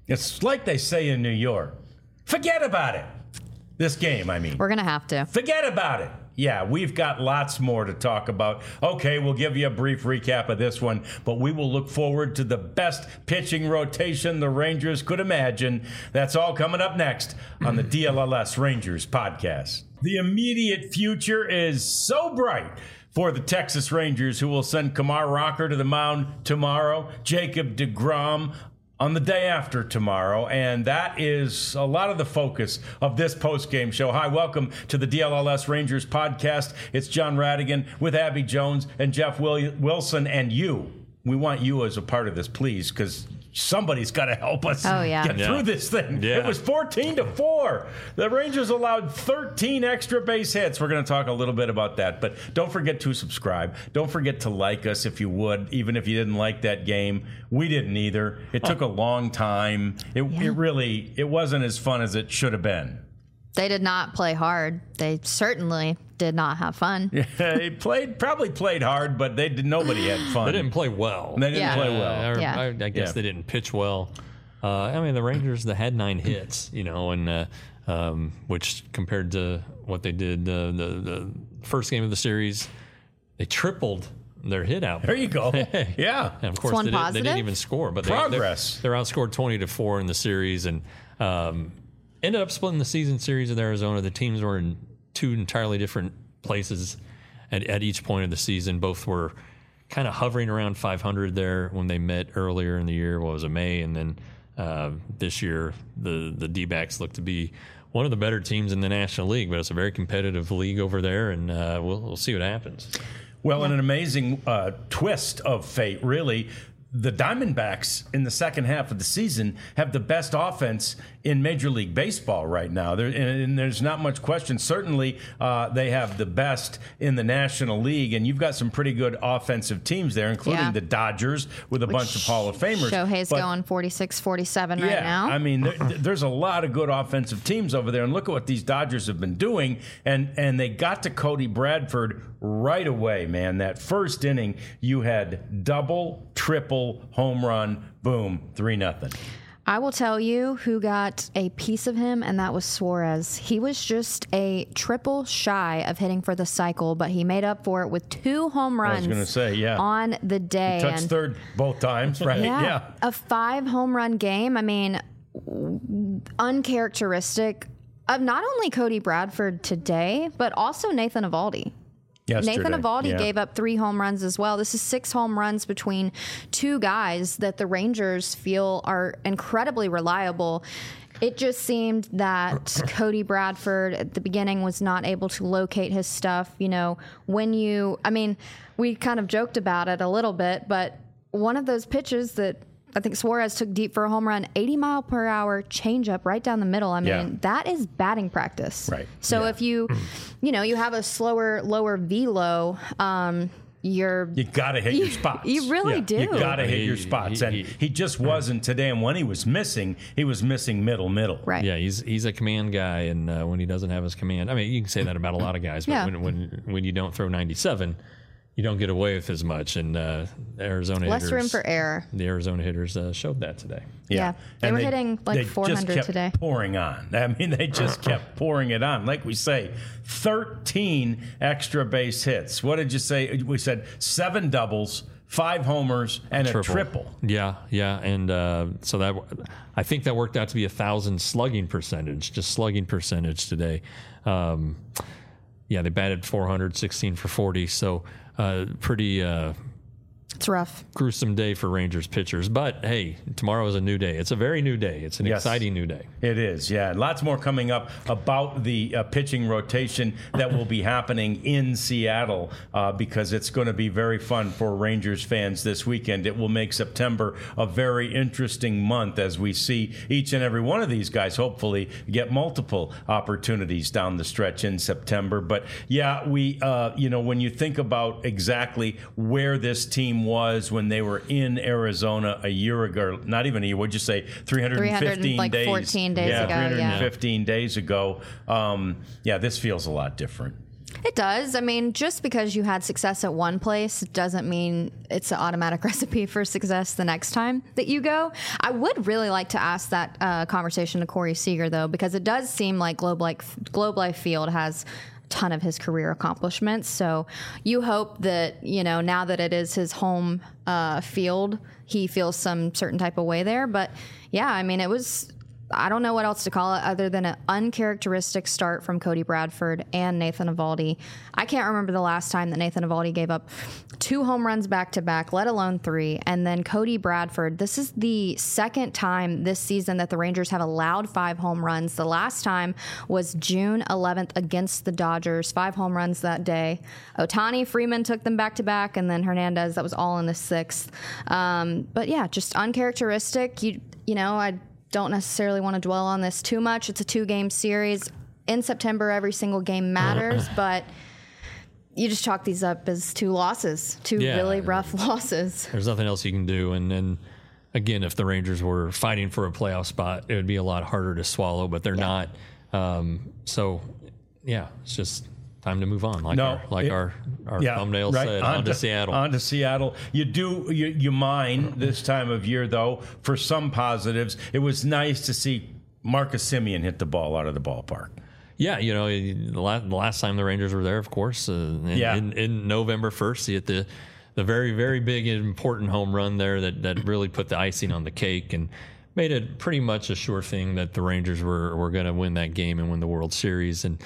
It's like they say in New York, forget about it. This game, I mean. We're going to have to. Forget about it. Yeah, we've got lots more to talk about. Okay, we'll give you a brief recap of this one, but we will look forward to the best pitching rotation the Rangers could imagine. That's all coming up next on the DLLS Rangers podcast. The immediate future is so bright for the Texas Rangers, who will send Kumar Rocker to the mound tomorrow, Jacob deGrom on the day after tomorrow, and that is a lot of the focus of this post-game show. Hi, welcome to the DLLS Rangers podcast. It's John Radigan with Abby Jones and Jeff Wilson, and you. We want you as a part of this, please, because somebody's got to help us get through this thing. Yeah. It was 14-4. The Rangers allowed 13 extra base hits. We're going to talk a little bit about that, but don't forget to subscribe. Don't forget to like us if you would, even if you didn't like that game. We didn't either. It took a long time. It wasn't as fun as it should have been. They did not play hard. They certainly did not have fun. Yeah, they probably played hard, but nobody had fun. They didn't play well. They didn't play well. I guess they didn't pitch well. I mean, the Rangers, they had 9 hits, and which compared to what they did the first game of the series, they tripled their hit out. There you go. Yeah. And of course, they didn't even score. But progress. They're outscored 20-4 in the series, and ended up splitting the season series with Arizona. The teams were in 2 entirely different places at each point of the season. Both were kind of hovering around 500 there when they met earlier in the year. What was it, May? And then this year, the D-backs look to be one of the better teams in the National League, but it's a very competitive league over there, and we'll see what happens. Well, in an amazing twist of fate, really, the Diamondbacks in the second half of the season have the best offense in Major League Baseball right now. And there's not much question. Certainly, they have the best in the National League, and you've got some pretty good offensive teams there, including the Dodgers with a bunch of Hall of Famers. Shohei's going 46-47 right now. I mean, there's a lot of good offensive teams over there, and look at what these Dodgers have been doing. And they got to Cody Bradford right away, man. That first inning, you had double, triple, home run, boom, 3-0. I will tell you who got a piece of him, and that was Suarez. He was just a triple shy of hitting for the cycle, but he made up for it with 2 home runs. I was going to say, on the day. He touched third both times, right? Yeah. A 5 home run game. I mean, uncharacteristic of not only Cody Bradford today, but also Nathan Eovaldi. Yesterday. Nathan Eovaldi gave up 3 home runs as well. This is 6 home runs between 2 guys that the Rangers feel are incredibly reliable. It just seemed that Cody Bradford at the beginning was not able to locate his stuff. We kind of joked about it a little bit, but one of those pitches that I think Suarez took deep for a home run, 80-mile-per-hour changeup right down the middle. I mean, that is batting practice. Right. So if you have a slower, lower velo, you got to hit your spots. You really do. You got to hit your spots. And he just wasn't today. And when he was missing middle. Right. Yeah, he's a command guy. And when he doesn't have his command, I mean, you can say that about a lot of guys. But when you don't throw 97, you don't get away with as much, and Arizona less hitters, room for error. The Arizona hitters showed that today. Yeah. They were hitting like 400 just kept today. Pouring on. I mean, they just kept pouring it on. Like we say, 13 extra base hits. What did you say? We said 7 doubles, 5 homers, and a triple. Yeah, and so that I think that worked out to be 1,000 slugging percentage today. They batted 400, 16 for 40. So pretty it's rough. Gruesome day for Rangers pitchers. But, hey, tomorrow is a new day. It's a very new day. It's an exciting new day. It is, yeah. Lots more coming up about the pitching rotation that will be happening in Seattle because it's going to be very fun for Rangers fans this weekend. It will make September a very interesting month as we see each and every one of these guys hopefully get multiple opportunities down the stretch in September. But, yeah, we, when you think about exactly where this team was when they were in Arizona a year ago, not even a year, what'd you say, 315 days? 14 days ago. 315 days ago. This feels a lot different. It does. I mean, just because you had success at one place doesn't mean it's an automatic recipe for success the next time that you go. I would really like to ask that conversation to Corey Seager, though, because it does seem like Globe Life Field has a ton of his career accomplishments. So you hope that, now that it is his home field, he feels some certain type of way there. But yeah, I mean, I don't know what else to call it other than an uncharacteristic start from Cody Bradford and Nathan Eovaldi. I can't remember the last time that Nathan Eovaldi gave up 2 home runs back-to-back, let alone 3. And then Cody Bradford, this is the second time this season that the Rangers have allowed 5 home runs. The last time was June 11th against the Dodgers, 5 home runs that day. Ohtani, Freeman took them back-to-back, and then Hernandez, that was all in the 6th. But yeah, just uncharacteristic. I don't necessarily want to dwell on this too much. It's a 2-game series. In September, every single game matters, but you just chalk these up as 2 losses, 2 really rough losses. There's nothing else you can do. And again, if the Rangers were fighting for a playoff spot, it would be a lot harder to swallow, but they're not. So, it's just time to move on, our thumbnail said, on to Seattle. On to Seattle. You mine this time of year, though, for some positives. It was nice to see Marcus Semien hit the ball out of the ballpark. Yeah, the last time the Rangers were there, of course, in November 1st, he hit the very, very big and important home run there that really put the icing on the cake and made it pretty much a sure thing that the Rangers were going to win that game and win the World Series. And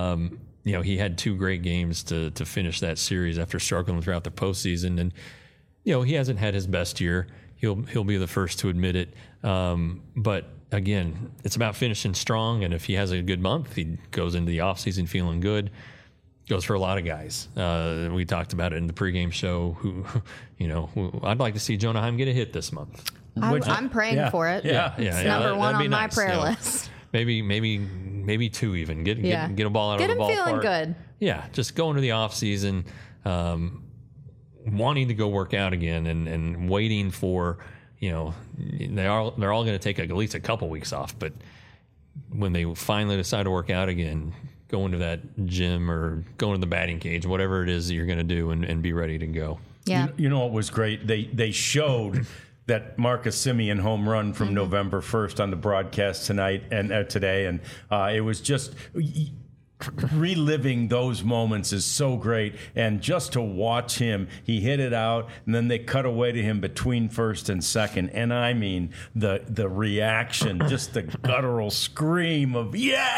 he had 2 great games to finish that series after struggling throughout the postseason. And, he hasn't had his best year. He'll be the first to admit it. But again, it's about finishing strong. And if he has a good month, he goes into the offseason feeling good. Goes for a lot of guys. We talked about it in the pregame show. Who I'd like to see Jonah Heim get a hit this month. I'm praying for it. It's number 1 on my prayer list. Maybe 2 even. Get a ball out of the ballpark. Get him feeling good. Yeah, just go into the off season, wanting to go work out again, and waiting for they're all going to take at least a couple weeks off. But when they finally decide to work out again, go into that gym or go into the batting cage, whatever it is that you're going to do, and be ready to go. Yeah. You know what was great? They showed that Marcus Semien home run from November 1st on the broadcast tonight and today, and it was just reliving those moments is so great. And just to watch him, he hit it out, and then they cut away to him between first and second, and I mean the reaction, just the guttural scream of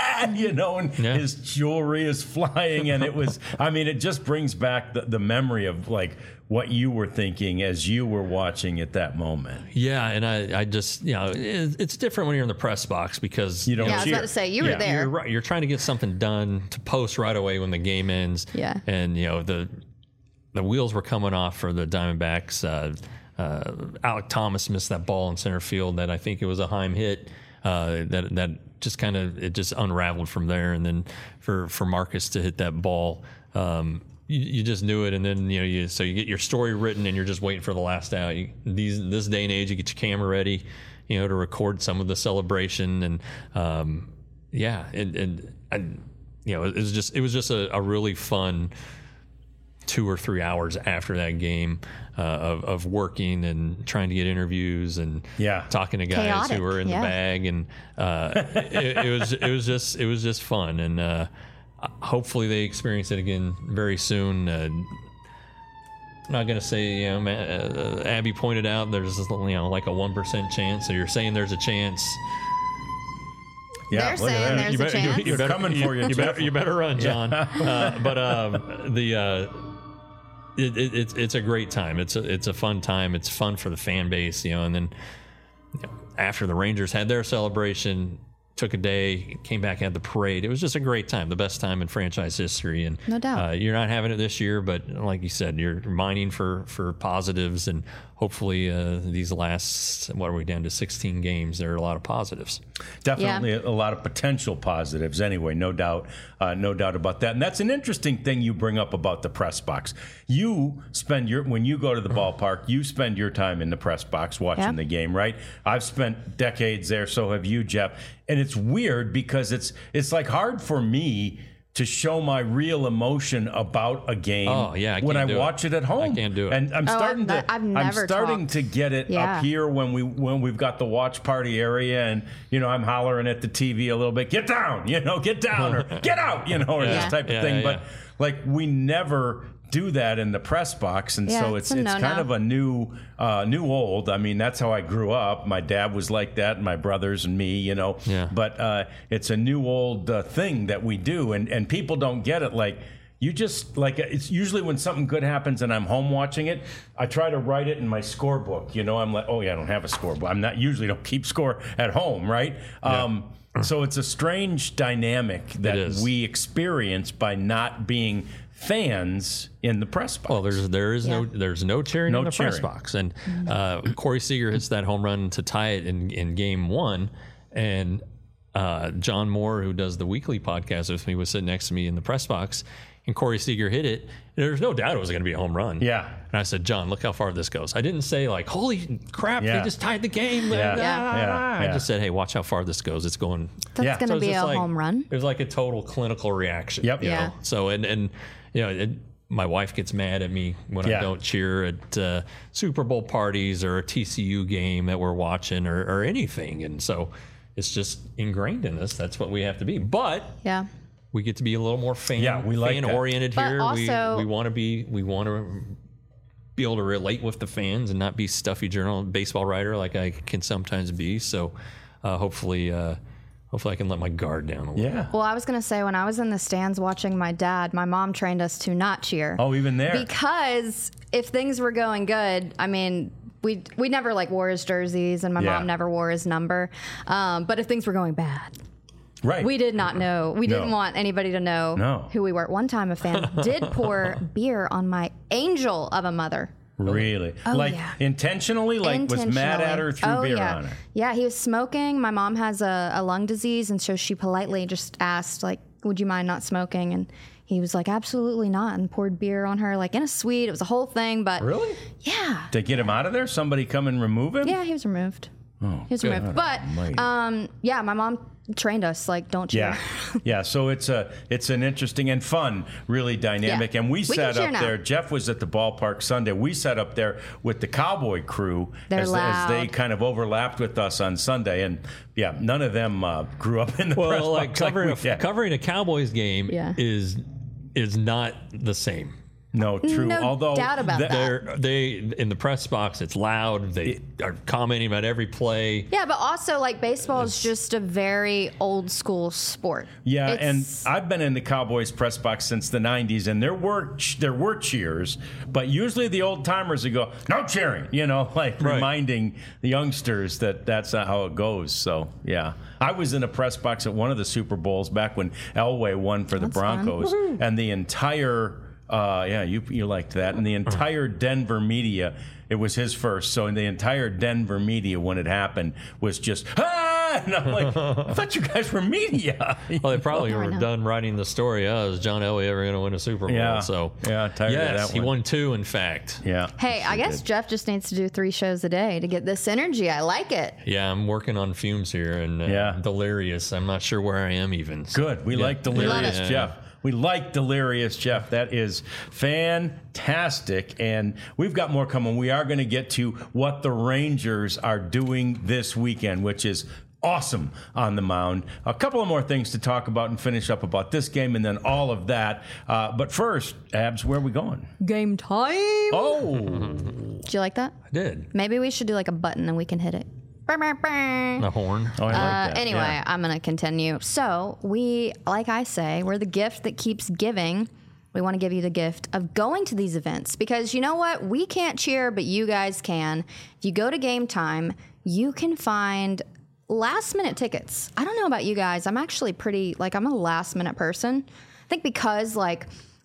his jewelry is flying, and it just brings back the memory of like what you were thinking as you were watching at that moment. Yeah, and I just, it's different when you're in the press box because you don't. Yeah, I was about to say you were there. You're right. You're trying to get something done to post right away when the game ends. Yeah, and the wheels were coming off for the Diamondbacks. Alek Thomas missed that ball in center field that I think it was a Heim hit. That just kind of it just unraveled from there, and then for Marcus to hit that ball. You just knew it, and then so you get your story written, and you're just waiting for the last out. This day and age, you get your camera ready, to record some of the celebration, and it was just a really fun 2 or 3 hours after that game of working and trying to get interviews and talking to guys chaotic, who were in the bag, and it was just fun, and hopefully they experience it again very soon. I'm not going to say, Abby pointed out there's like a 1% chance. So you're saying there's a chance. Yeah, they're saying there's a chance. You're coming for you. You better run, John. It's a great time. It's a fun time. It's fun for the fan base, and then after the Rangers had their celebration, took a day, came back, had the parade. It was just a great time, the best time in franchise history. And no doubt, you're not having it this year, but like you said, you're mining for positives, and hopefully these last, what are we down to, 16 games, there are a lot of positives. Definitely a lot of potential positives anyway, no doubt about that. And that's an interesting thing you bring up about the press box. You spend when you go to the ballpark, you spend your time in the press box watching the game, right? I've spent decades there, so have you, Jeff. And it's weird because it's like hard for me to show my real emotion about a game Oh, yeah, I when I can't do it. watch it at home. I can't do it. And I'm starting I've never talked. to get it Yeah. up here when we've got the watch party area, and I'm hollering at the TV a little bit, get down, get down, or get out, or Yeah. this type of thing. But like, we never do that in the press box, and Yeah, so it's it's a no-no. kind of a new old. I mean, that's how I grew up. My dad was like that, and my brothers and me, Yeah. But it's a new old thing that we do, and people don't get it. Like, you just, like, it's usually when something good happens and I'm home watching it, I try to write it in my scorebook. I'm like, oh yeah, I don't have a scorebook. I'm not usually don't keep score at home, right? So it's a strange dynamic that we experience by not being fans in the press box. Well, there's no cheering in the press cheering. box, and Corey Seager hits that home run to tie it in game one, and John Moore, who does the weekly podcast with me, was sitting next to me in the press box, and Corey Seager hit it. And there was no doubt it was going to be a home run. Yeah. And I said, John, look how far this goes. I didn't say like, holy crap, Yeah. they just tied the game. Yeah. I just said, hey, watch how far this goes. It's going. That's Yeah. going So to it's be just a like- home run. It was like a total clinical reaction. Yep. you know? Yeah. So and my wife gets mad at me when Yeah. I don't cheer at Super Bowl parties or a TCU game that we're watching or anything, and so it's just ingrained in us. That's what we have to be. But Yeah. we get to be a little more fan we like fan that. oriented But here. also- we want to be able to relate with the fans and not be stuffy baseball writer like I can sometimes be. So hopefully I can let my guard down a little. Yeah. Well, I was going to say, when I was in the stands watching my dad, my mom trained us to not cheer. Oh, even there. Because if things were going good, I mean, we never like wore his jerseys, and my Yeah. mom never wore his number. But if things were going bad, Right. we did not know. We didn't No. want anybody to know who we were. One time, a fan did pour beer on my angel of a mother. Really? Oh, like, yeah. intentionally? Like, was mad at her, threw beer yeah. on her? Yeah, he was smoking. My mom has a lung disease, and so she politely just asked, like, would you mind not smoking? And he was like, absolutely not, and poured beer on her, like, in a suite. It was a whole thing, but... Really? Yeah. To get him out of there? Somebody come and remove him? Yeah, he was removed. Oh, He was good. removed. But, yeah, my mom trained us, like, don't cheer. Yeah, yeah. So it's an interesting and fun, really dynamic. Yeah. And we We sat can cheer up now. there. Jeff was at the ballpark Sunday. We sat up there with the Cowboy crew They're as loud. they kind of overlapped with us on Sunday. And yeah, none of them grew up in the press Well, like box covering a Cowboys game Yeah. is not the same. No, true. No Although doubt about that. They in the press box, it's loud. They are commenting about every play. Yeah, but also, like, baseball is just a very old school sport. Yeah, It's- and I've been in the Cowboys press box since the 90s, and there were cheers, but usually the old timers would go, no cheering, like Right. reminding the youngsters that that's not how it goes. So, yeah. I was in a press box at one of the Super Bowls back when Elway won for the That's fun. Broncos, and the entire, you liked that, and the entire Denver media, it was his first, so in the entire Denver media when it happened was just, and I'm like, I thought you guys were media. Well, they probably I were know. done writing the story. Is John Elway ever going to win a Super Bowl? Yeah. So Yeah, tired of yes, that he one. won 2, in fact. Yeah. Hey, I guess Jeff just needs to do 3 shows a day to get this energy. I like it. Yeah, I'm working on fumes here and Yeah. delirious. I'm not sure where I am even. So, Good. We yeah. like Delirious Yeah. Jeff. We like Delirious Jeff. That is fantastic. And we've got more coming. We are going to get to what the Rangers are doing this weekend, which is awesome on the mound. A couple of more things to talk about and finish up about this game and then all of that. But first, Abs, where are we going? Game time. Oh, Did you like that? I did. Maybe we should do like a button and we can hit it. A horn. I like that. Anyway, Yeah. I'm going to continue. So we, like I say, we're the gift that keeps giving. We want to give you the gift of going to these events because you know what? We can't cheer, but you guys can. If you go to Game Time, you can find last minute tickets. I don't know about you guys. I'm actually I'm a last minute person. I think because like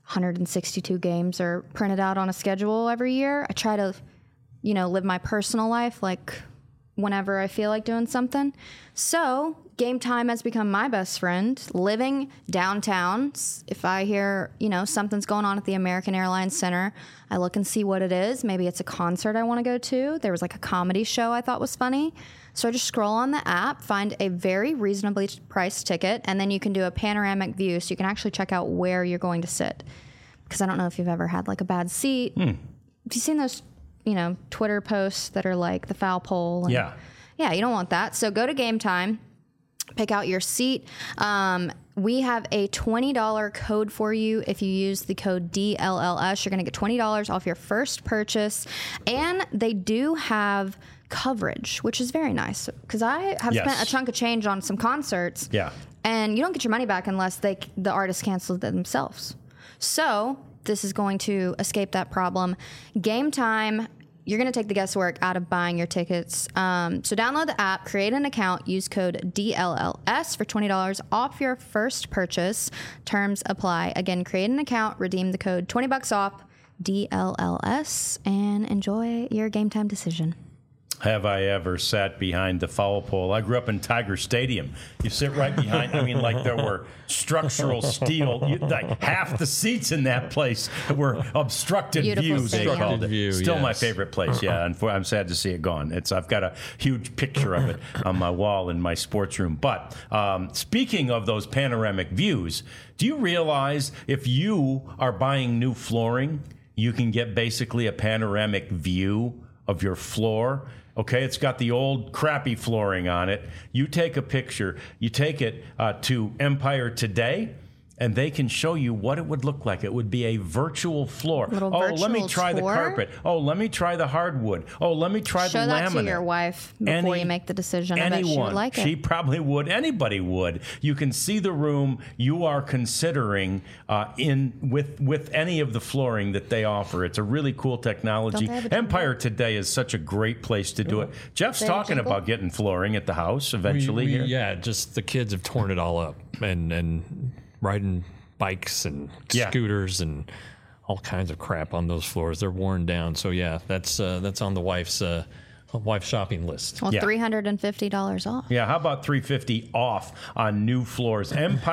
162 games are printed out on a schedule every year, I try to, live my personal life like whenever I feel like doing something. So Game Time has become my best friend. Living downtown, if I hear, something's going on at the American Airlines Center, I look and see what it is. Maybe it's a concert I want to go to. There was like a comedy show I thought was funny. So I just scroll on the app, find a very reasonably priced ticket, and then you can do a panoramic view, so you can actually check out where you're going to sit. Because I don't know if you've ever had like a bad seat. Have you seen those, Twitter posts that are like the foul pole? Yeah. Yeah, you don't want that. So go to Game Time, pick out your seat. We have a $20 code for you. If you use the code DLLS, you're going to get $20 off your first purchase. And they do have coverage, which is very nice. Because I have spent a chunk of change on some concerts. Yeah. And you don't get your money back unless the artist cancels it themselves. So this is going to escape that problem. Game Time, you're going to take the guesswork out of buying your tickets. So download the app, create an account, use code DLLS for $20 off your first purchase. Terms apply. Again, create an account, redeem the code $20 off DLLS, and enjoy your Game Time decision. Have I ever sat behind the foul pole? I grew up in Tiger Stadium. You sit right behind, like there were structural steel. Like half the seats in that place were obstructed Beautiful view, they stadium. called it. View, Still my yes. favorite place, yeah. And I'm sad to see it gone. I've got a huge picture of it on my wall in my sports room. But speaking of those panoramic views, do you realize if you are buying new flooring, you can get basically a panoramic view of your floor? Okay, it's got the old crappy flooring on it. You take a picture, you take it to Empire Today, and they can show you what it would look like. It would be a virtual floor. Let me try the carpet. Let me try the hardwood. Let me try the laminate. Show that to your wife before you make the decision. I bet she would like it. She probably would. Anybody would. You can see the room you are considering with any of the flooring that they offer. It's a really cool technology. Empire Today is such a great place to do it. Jeff's talking about getting flooring at the house eventually. Here. Yeah, just the kids have torn it all up and riding bikes and scooters and all kinds of crap on those floors. They're worn down. So yeah, that's on the wife's shopping list. Well, $350 off. Yeah, how about $350 off on new floors?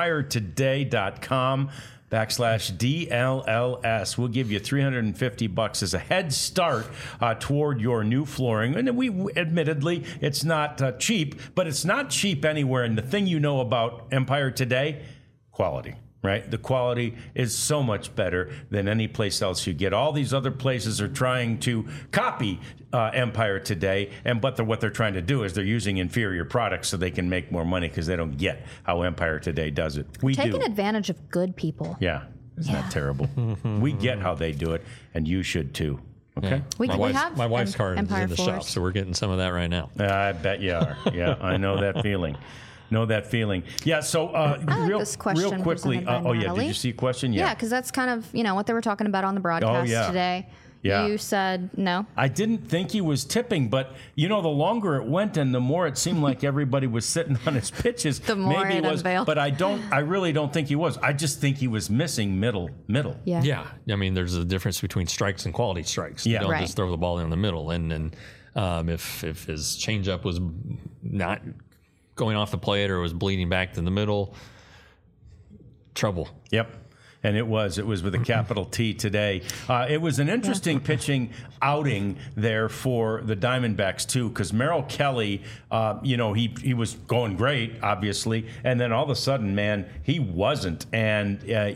EmpireToday.com/DLLS. We'll give you $350 as a head start toward your new flooring. And admittedly, it's not cheap, but it's not cheap anywhere. And the thing you know about Empire Today, quality, right? The quality is so much better than any place else you get. All these other places are trying to copy Empire Today, but what they're trying to do is they're using inferior products so they can make more money because they don't get how Empire Today does it. We do. Taking advantage of good people. Yeah. Isn't that terrible? We get how they do it, and you should too. Okay? Yeah. My wife's card is Empire in the floors. shop, so we're getting some of that right now. I bet you are. Yeah, I know that feeling. Yeah, so this question real quickly. presented by Did Natalie. you see a question? Yeah, because that's kind of, what they were talking about on the broadcast today. Yeah. You said no. I didn't think he was tipping, but, the longer it went and the more it seemed like everybody was sitting on his pitches. The more maybe it unveiled. But I really don't think he was. I just think he was missing middle. Yeah. Yeah. I mean, there's a difference between strikes and quality strikes. You don't just throw the ball in the middle. And if his changeup was not going off the plate or was bleeding back to the middle, trouble. Yep. And it was with a capital T today. It was an interesting pitching outing there for the Diamondbacks, too, because Merrill Kelly, he was going great, obviously, and then all of a sudden, man, he wasn't. And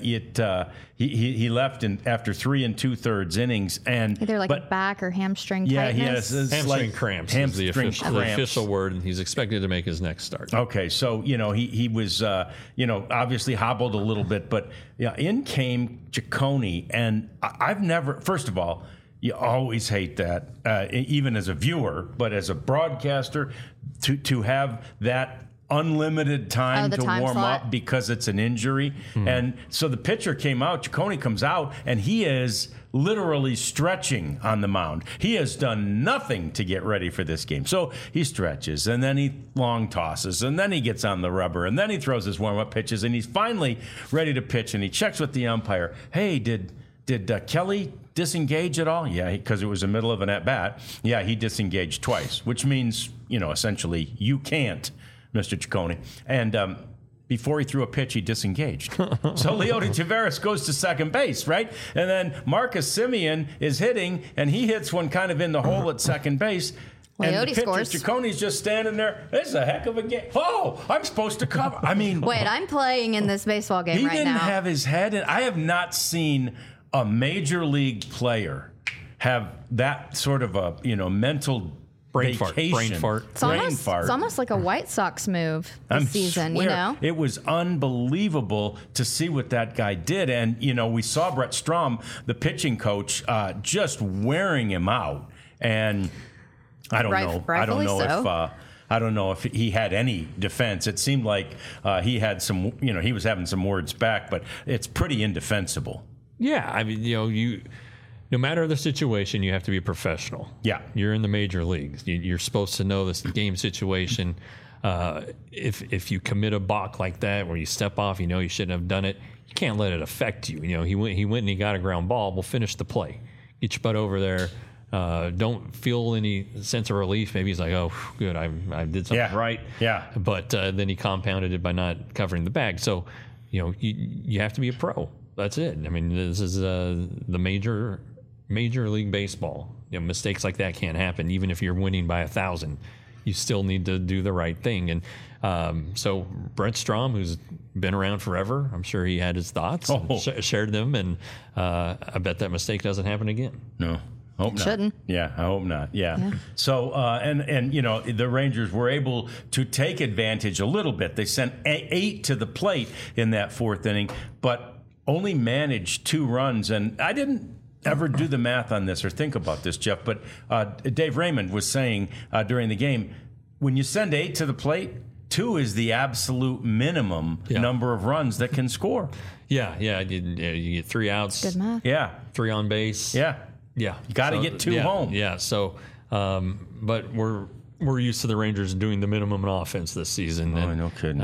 he left after 3 2/3 innings. And Either a back or hamstring tightness. he has hamstring cramps is the official word, and he's expected to make his next start. Okay, so, he was, obviously hobbled a little bit, but in came Ciccone, and I've never, first of all, you always hate that, even as a viewer, but as a broadcaster, to have that unlimited time to warm slot. up because it's an injury. And so the pitcher came out, Ciccone comes out, and he is literally stretching on the mound. He has done nothing to get ready for this game. So he stretches, and then he long tosses, and then he gets on the rubber, and then he throws his warm-up pitches, and he's finally ready to pitch, and he checks with the umpire. Hey, did Kelly disengage at all? Yeah, because it was the middle of an at-bat. Yeah, he disengaged twice, which means, essentially, you can't, Mr. Ciccone. And before he threw a pitch, he disengaged. So Leody Taveras goes to second base, right? And then Marcus Semien is hitting, and he hits one kind of in the hole at second base. and the Leote pitcher, scores. Cicconi's just standing there. This is a heck of a game. Oh, I'm supposed to cover. I mean, Wait, I'm playing in this baseball game he right didn't now. have his head in. I have not seen a major league player have that sort of a mental Brain fart. vacation. It's almost like a White Sox move this season, swear, It was unbelievable to see what that guy did. And, we saw Brett Strom, the pitching coach, just wearing him out. And I don't know. I don't know if he had any defense. It seemed like he had some, he was having some words back, but it's pretty indefensible. Yeah, I mean, no matter the situation, you have to be a professional. Yeah. You're in the major leagues. You're supposed to know this game situation. If you commit a balk like that where you step off, you shouldn't have done it, you can't let it affect you. He went and he got a ground ball. We'll finish the play. Get your butt over there. Don't feel any sense of relief. Maybe he's like, oh, good, I did something right. Yeah. But then he compounded it by not covering the bag. So, you have to be a pro. That's it. I mean, this is the Major League Baseball. Mistakes like that can't happen. Even if you're winning by 1,000, you still need to do the right thing. And so Brent Strom, who's been around forever, I'm sure he had his thoughts, shared them, and I bet that mistake doesn't happen again. No. Hope not. Shouldn't. Yeah, I hope not. Yeah. So, and the Rangers were able to take advantage a little bit. They sent 8 to the plate in that 4th inning, but only managed 2 runs. And I didn't ever do the math on this or think about this, Jeff, but Dave Raymond was saying during the game, when you send 8 to the plate, 2 is the absolute minimum number of runs that can score. Yeah. You get 3 outs. Good math. Yeah. 3 on base. Yeah. Yeah. You got to get 2 home. Yeah. So, but we're used to the Rangers doing the minimum in offense this season. Oh, no kidding.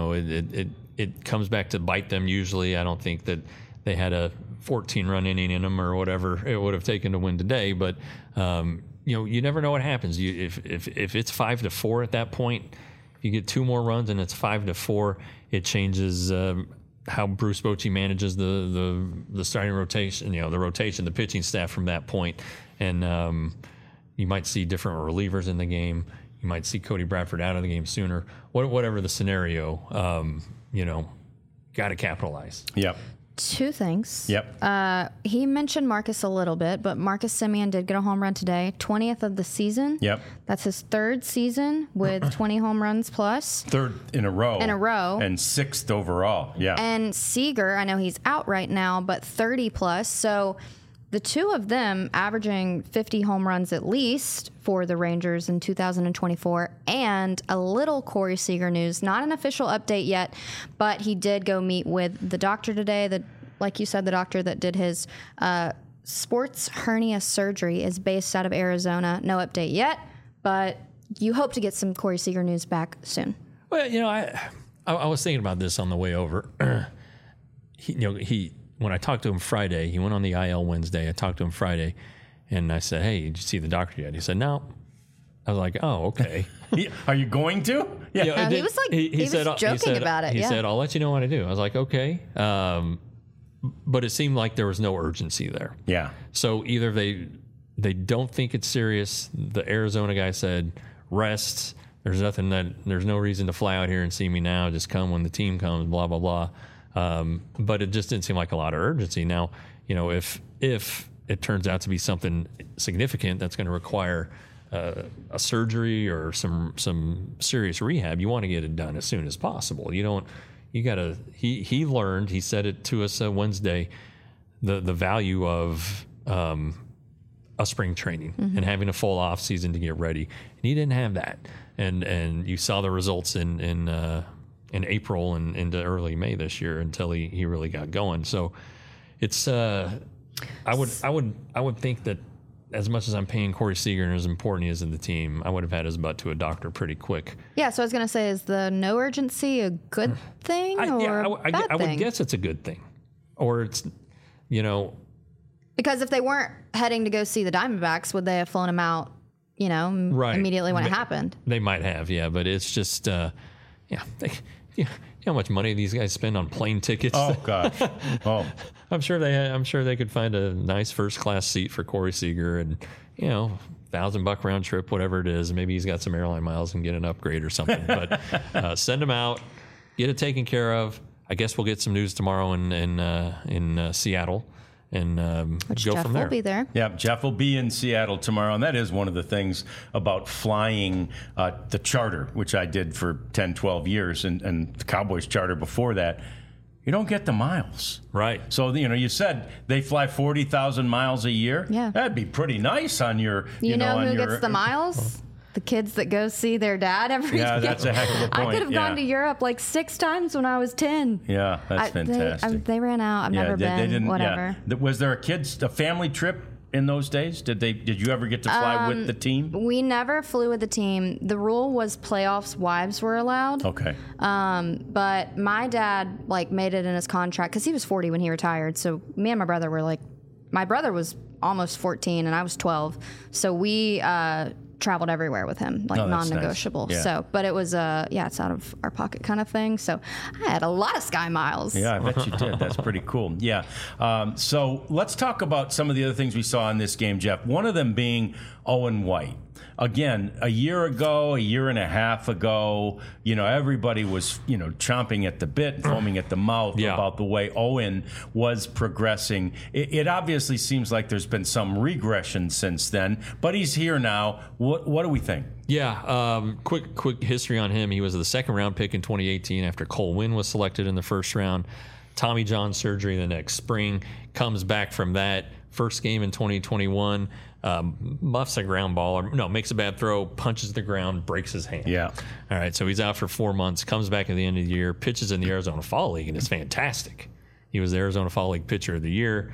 It comes back to bite them usually. I don't think that they had a 14-run inning in them or whatever it would have taken to win today. But you never know what happens. If it's 5-4 at that point, you get 2 more runs and it's 5-4. It changes how Bruce Bochy manages the starting rotation. The pitching staff from that point, and you might see different relievers in the game. You might see Cody Bradford out of the game sooner. Whatever the scenario, got to capitalize. Yep. 2 things. Yep. He mentioned Marcus a little bit, but Marcus Semien did get a home run today, 20th of the season. Yep. That's his 3rd season with 20 home runs plus. 3rd in a row. And 6th overall. Yeah. And Seager, I know he's out right now, but 30 plus. So the 2 of them averaging 50 home runs at least for the Rangers in 2024. And a little Corey Seager news, not an official update yet, but he did go meet with the doctor today. Like you said, the doctor that did his sports hernia surgery is based out of Arizona. No update yet, but you hope to get some Corey Seager news back soon. Well, I was thinking about this on the way over. When I talked to him Friday, he went on the IL Wednesday. I talked to him Friday, and I said, "Hey, did you see the doctor yet?" He said, "No." I was like, "Oh, okay." Are you going to? Yeah. He was like, he was joking about it. He said, "I'll let you know what I do." I was like, "Okay," but it seemed like there was no urgency there. Yeah. So either they don't think it's serious. The Arizona guy said, "Rest. There's no reason to fly out here and see me now. Just come when the team comes." Blah blah blah. But it just didn't seem like a lot of urgency. Now, if it turns out to be something significant that's going to require a surgery or some serious rehab, you want to get it done as soon as possible. He learned, he said it to us Wednesday, the value of a spring training and having a full off season to get ready. And he didn't have that. And you saw the results in April and into early May this year until he really got going. So it's I would think that as much as I'm paying Corey Seager and as important he is in the team, I would have had his butt to a doctor pretty quick. Yeah, so I was going to say, is the no urgency a good thing or a bad thing? I would guess it's a good thing. Or it's, Because if they weren't heading to go see the Diamondbacks, would they have flown him out, immediately when it happened? They might have, yeah. But it's just, how much money these guys spend on plane tickets. Oh gosh. Oh. I'm sure they could find a nice first class seat for Corey Seager, and $1,000 round trip, whatever it is. Maybe he's got some airline miles and get an upgrade or something. But send him out, get it taken care of. I guess we'll get some news tomorrow in Seattle, and Which go Jeff from there. will be there. Yeah, Jeff will be in Seattle tomorrow, and that is one of the things about flying the charter, which I did for 10, 12 years, and the Cowboys charter before that. You don't get the miles. Right. So, you said they fly 40,000 miles a year. Yeah. That'd be pretty nice on your, You know on who your, gets the miles? The kids that go see their dad every Yeah, day. that's a heck of a point. I could have gone to Europe like 6 times when I was 10. Yeah, that's fantastic. They ran out. I've never been. They didn't, whatever. Yeah. Was there a family trip in those days? Did you ever get to fly with the team? We never flew with the team. The rule was playoffs wives were allowed. Okay. But my dad made it in his contract because he was 40 when he retired. So me and my brother were my brother was almost 14 and I was 12. So we traveled everywhere with him, that's non-negotiable. nice. Yeah. So, but it was it's out of our pocket kind of thing. So I had a lot of Sky miles. Yeah, I bet you did. That's pretty cool. Yeah. So let's talk about some of the other things we saw in this game, Jeff. One of them being Owen White. Again, a year and a half ago, everybody was, chomping at the bit, foaming at the mouth about the way Owen was progressing. It obviously seems like there's been some regression since then, but he's here now. What do we think? Yeah, quick history on him. He was the second round pick in 2018 after Cole Winn was selected in the first round. Tommy John surgery the next spring, comes back from that. First game in 2021, muffs a ground ball, makes a bad throw, punches the ground, breaks his hand. Yeah. All right, so he's out for 4 months, comes back at the end of the year, pitches in the Arizona Fall League, and it's fantastic. He was the Arizona Fall League Pitcher of the Year,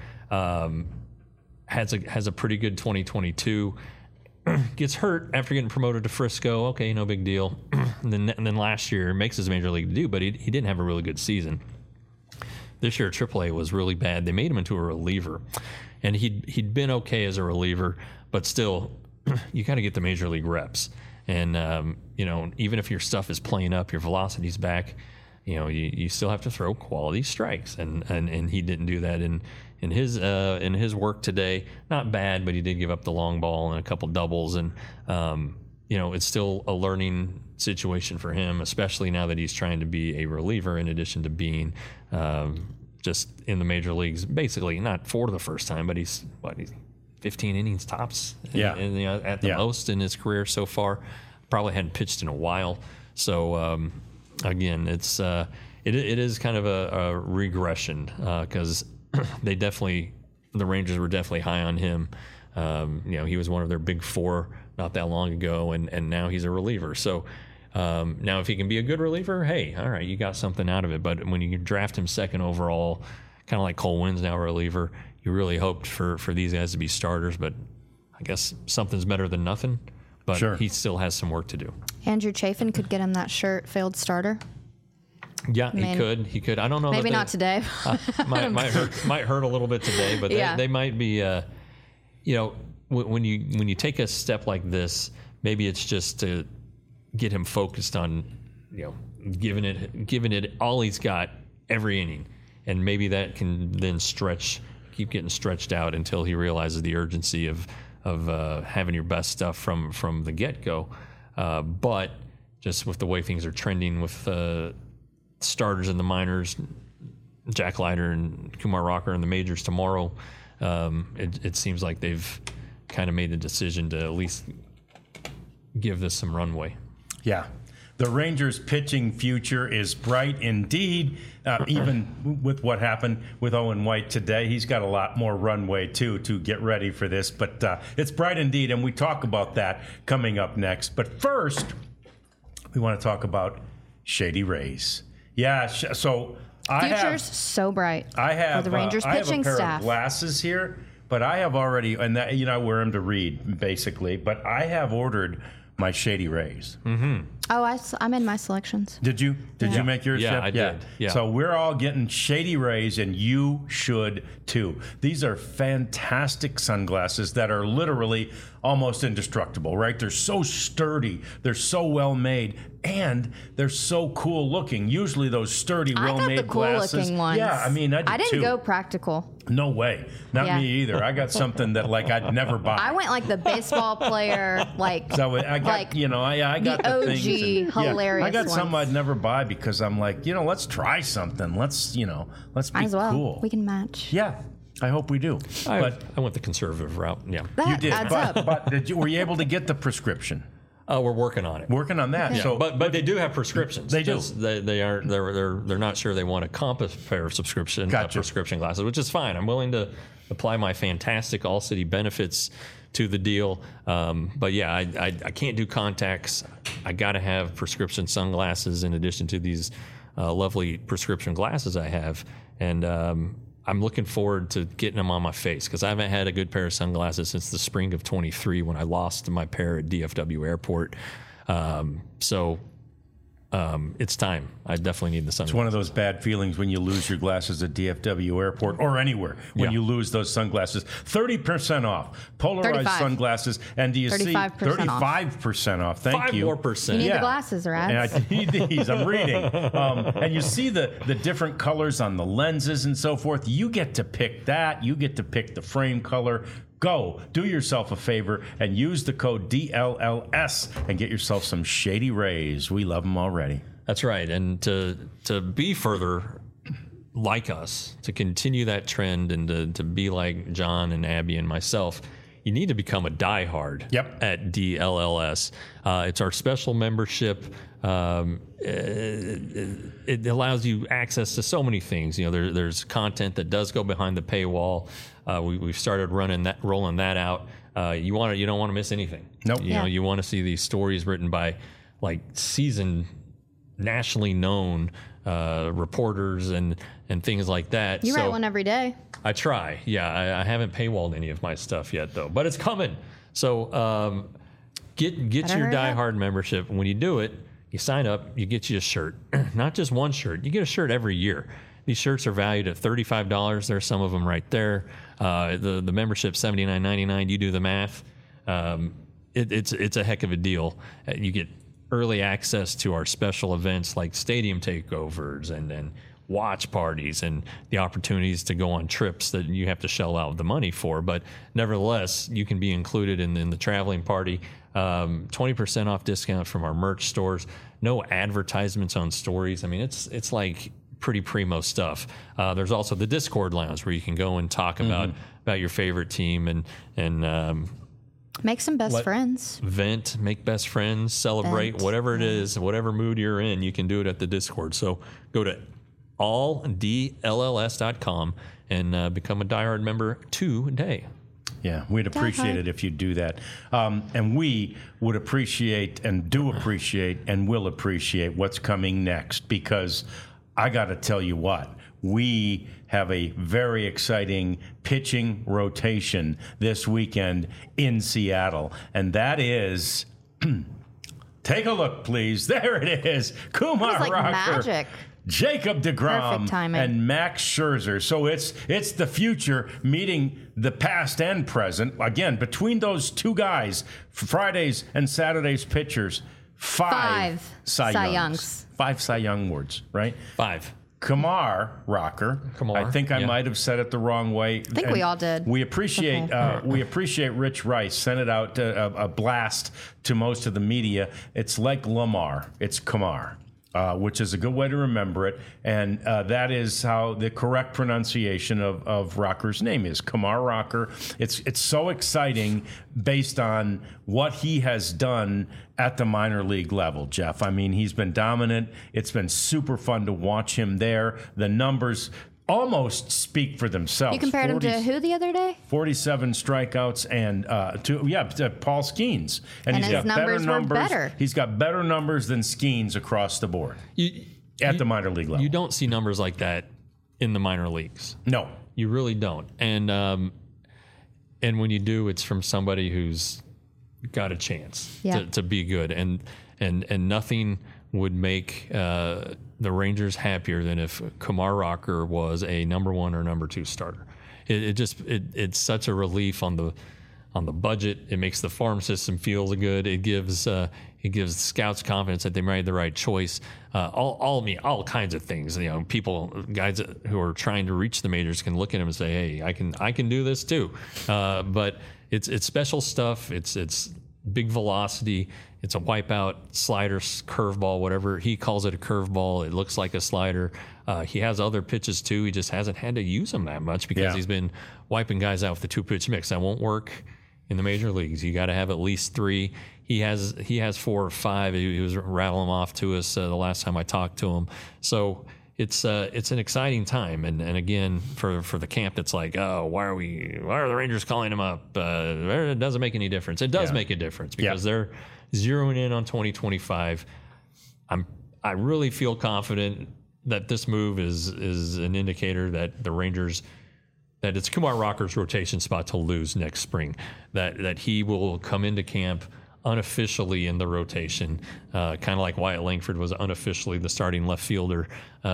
has a pretty good 2022. Gets hurt after getting promoted to Frisco. Okay, no big deal. and then last year makes his major league debut, but he didn't have a really good season. This year, AAA was really bad. They made him into a reliever, and he'd been okay as a reliever, but still, you got to get the major league reps. And even if your stuff is playing up, your velocity's back, you still have to throw quality strikes, and he didn't do that in his work today. Not bad, but he did give up the long ball and a couple doubles, and it's still a learning situation for him, especially now that he's trying to be a reliever in addition to being just in the major leagues, basically not for the first time, but he's 15 innings tops at the most in his career so far. Probably hadn't pitched in a while. So again, it is kind of a regression because the Rangers were definitely high on him. He was one of their big four not that long ago, and now he's a reliever. So now if he can be a good reliever, hey, all right, you got something out of it. But when you draft him second overall, kind of like Cole Winn's now a reliever, you really hoped for these guys to be starters. But I guess something's better than nothing. But Sure. He still has some work to do. Andrew Chafin could get him that shirt, failed starter. Yeah, he could. I don't know. Maybe not today. might hurt a little bit today, but they might be. When you take a step like this, maybe it's just to get him focused on, giving it all he's got every inning, and maybe that can then keep getting stretched out until he realizes the urgency of having your best stuff from the get go. But just with the way things are trending with starters in the minors, Jack Leiter and Kumar Rocker in the majors tomorrow, it seems like they've kind of made the decision to at least give this some runway. Yeah. The Rangers' pitching future is bright indeed, even with what happened with Owen White today. He's got a lot more runway, too, to get ready for this. But it's bright indeed, and we talk about that coming up next. But first, we want to talk about Shady Rays. Yeah, so Future's so bright for the Rangers pitching staff. I have a pair staff. of glasses here, but I have already, and that, I wear them to read, basically, but I have ordered my Shady Rays. Mm-hmm. Oh, I'm in my selections. Did you? Did you make yours, Yeah, Jeff? I did. Yeah. So we're all getting Shady Rays, and you should too. These are fantastic sunglasses that are literally almost indestructible, right? They're so sturdy. They're so well made. And they're so cool looking. Usually those sturdy, well-made I got the cool glasses. looking ones. Yeah, I mean, I didn't too. go practical. No way. Not Yeah. me either. I got something that like I'd never buy. I went like the baseball player, like So I got, like I got the the OG things. hilarious I got something ones. I'd never buy because I'm like, let's try something. Let's be might as well. cool. We can match. Yeah, I hope we do. But I went the conservative route. Yeah. That you did. adds But, up. but were you able to get the prescription? We're working on it. Working on that. Okay. So, But they do have prescriptions. They do. Just They aren't. They're not sure they want a compass pair of Gotcha. prescription glasses, which is fine. I'm willing to apply my fantastic All City benefits to the deal. But yeah, I can't do contacts. I got to have prescription sunglasses in addition to these lovely prescription glasses I have, and I'm looking forward to getting them on my face because I haven't had a good pair of sunglasses since the spring of 23 when I lost my pair at DFW Airport. It's time. I definitely need the sunglasses. it's one of those bad feelings when you lose your glasses at DFW Airport or anywhere when Yeah. you lose those sunglasses. 30% off. Polarized 35. sunglasses. And do you see 35% off. 35% off? Thank 5 you. more You percent. need Yeah. the glasses, And Rats. I need these. I'm reading. And you see the different colors on the lenses and so forth. You get to pick that. You get to pick the frame color. Go. Do yourself a favor and use the code DLLS and get yourself some Shady Rays. We love them already. That's right. And to be further like us, to continue that trend and to be like John and Abby and myself, you need to become a diehard Yep. at DLLS. It's our special membership. It allows you access to so many things. There's content that does go behind the paywall. We've started rolling that out. You don't want to miss anything. Nope. You want to see these stories written by like seasoned, nationally known reporters and things like that. You write one every day. I try. Yeah, I haven't paywalled any of my stuff yet though, but it's coming. So get Better your hurry up. diehard membership. When you do it, you sign up, you get you a shirt. Not just one shirt. You get a shirt every year. These shirts are valued at $35. There's some of them right there. The membership $79.99. You do the math. It's a heck of a deal. You get early access to our special events like stadium takeovers and watch parties and the opportunities to go on trips that you have to shell out the money for. But nevertheless, you can be included in the traveling party. 20% off discount from our merch stores. No advertisements on stories. I mean, it's like pretty primo stuff. There's also the Discord lounge where you can go and talk about your favorite team and Make some best friends. vent, make best friends, celebrate, Vent, whatever it is, whatever mood you're in, you can do it at the Discord. So go to alldlls.com and become a diehard member today. Yeah, we'd appreciate it if you do that. And we would appreciate and do appreciate and will appreciate what's coming next because I got to tell you what, we have a very exciting pitching rotation this weekend in Seattle. And that is, take a look, please. There it is. Kumar It was like Rocker. magic. Jacob DeGrom Perfect timing. and Max Scherzer. So it's the future meeting the past and present. Again, between those two guys, Fridays and Saturdays pitchers, five Cy Cy Youngs. Youngs. 5 Cy Young awards, right? 5. Kumar Rocker. Kumar, I think I yeah. might have said it the wrong way. I think we all did. We appreciate Rich Rice. Sent it out a blast to most of the media. It's like Lamar. It's Kumar. Which is a good way to remember it. And that is how the correct pronunciation of Rocker's name is, Kumar Rocker. It's so exciting based on what he has done at the minor league level, Jeff. I mean, he's been dominant. It's been super fun to watch him there. The numbers almost speak for themselves. You compared him to who the other day? 47 strikeouts and to Paul Skeens, And he's his got numbers were better. He's got better numbers than Skeens across the board at the minor league level. You don't see numbers like that in the minor leagues. No, You really don't. And when you do, it's from somebody who's got a chance Yeah. to be good. And and nothing would make the Rangers happier than if Kumar Rocker was a number 1 or number 2 starter. It's such a relief on the budget. It makes the farm system feel good. It gives scouts confidence that they made the right choice. All kinds of things. Guys who are trying to reach the majors can look at him and say, "Hey, I can do this too." But it's special stuff. It's big velocity. It's a wipeout slider, curveball, whatever he calls it, a curveball. It looks like a slider. He has other pitches too. He just hasn't had to use them that much because he's been wiping guys out with the 2-pitch mix. That won't work in the major leagues. You got to have at least 3. He has 4 or 5. He was rattling them off to us the last time I talked to him. So it's an exciting time. And again, for the camp that's like, oh, why are the Rangers calling him up? It doesn't make any difference. It does make a difference because they're zeroing in on 2025. I really feel confident that this move is an indicator that the Rangers, that it's Kumar Rocker's rotation spot to lose next spring, that he will come into camp unofficially in the rotation, kind of like Wyatt Langford was unofficially the starting left fielder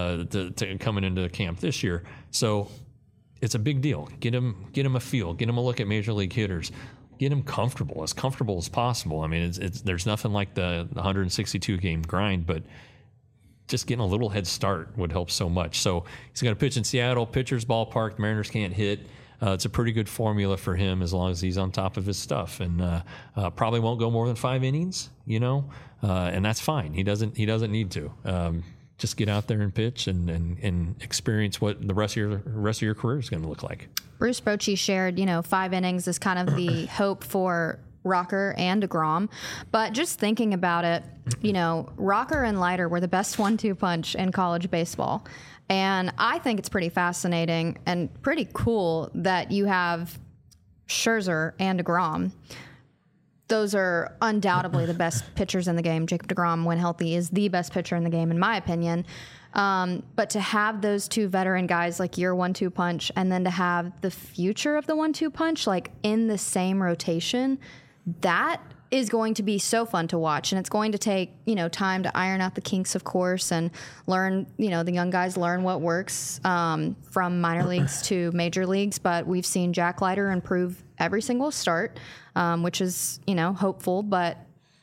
to coming into the camp this year. So it's a big deal. Get him a feel, get him a look at major league hitters, get him comfortable as possible. I mean, there's nothing like the 162 game grind, but just getting a little head start would help so much. So he's going to pitch in Seattle, pitcher's ballpark. The Mariners can't hit. It's a pretty good formula for him as long as he's on top of his stuff, and probably won't go more than 5 innings, and that's fine. He doesn't need to. Just get out there and pitch and experience what the rest of your career is going to look like. Bruce Bochy shared, 5 innings is kind of the hope for Rocker and DeGrom. But just thinking about it, Rocker and Leiter were the best 1-2 punch in college baseball. And I think it's pretty fascinating and pretty cool that you have Scherzer and DeGrom. Those are undoubtedly the best pitchers in the game. Jacob DeGrom, when healthy, is the best pitcher in the game, in my opinion. But to have those 2 veteran guys like your 1-2 punch, and then to have the future of the 1-2 punch like in the same rotation, that is going to be so fun to watch. And it's going to take, time to iron out the kinks, of course, and learn, the young guys learn what works from minor leagues to major leagues. But we've seen Jack Leiter improve every single start, which is, hopeful. But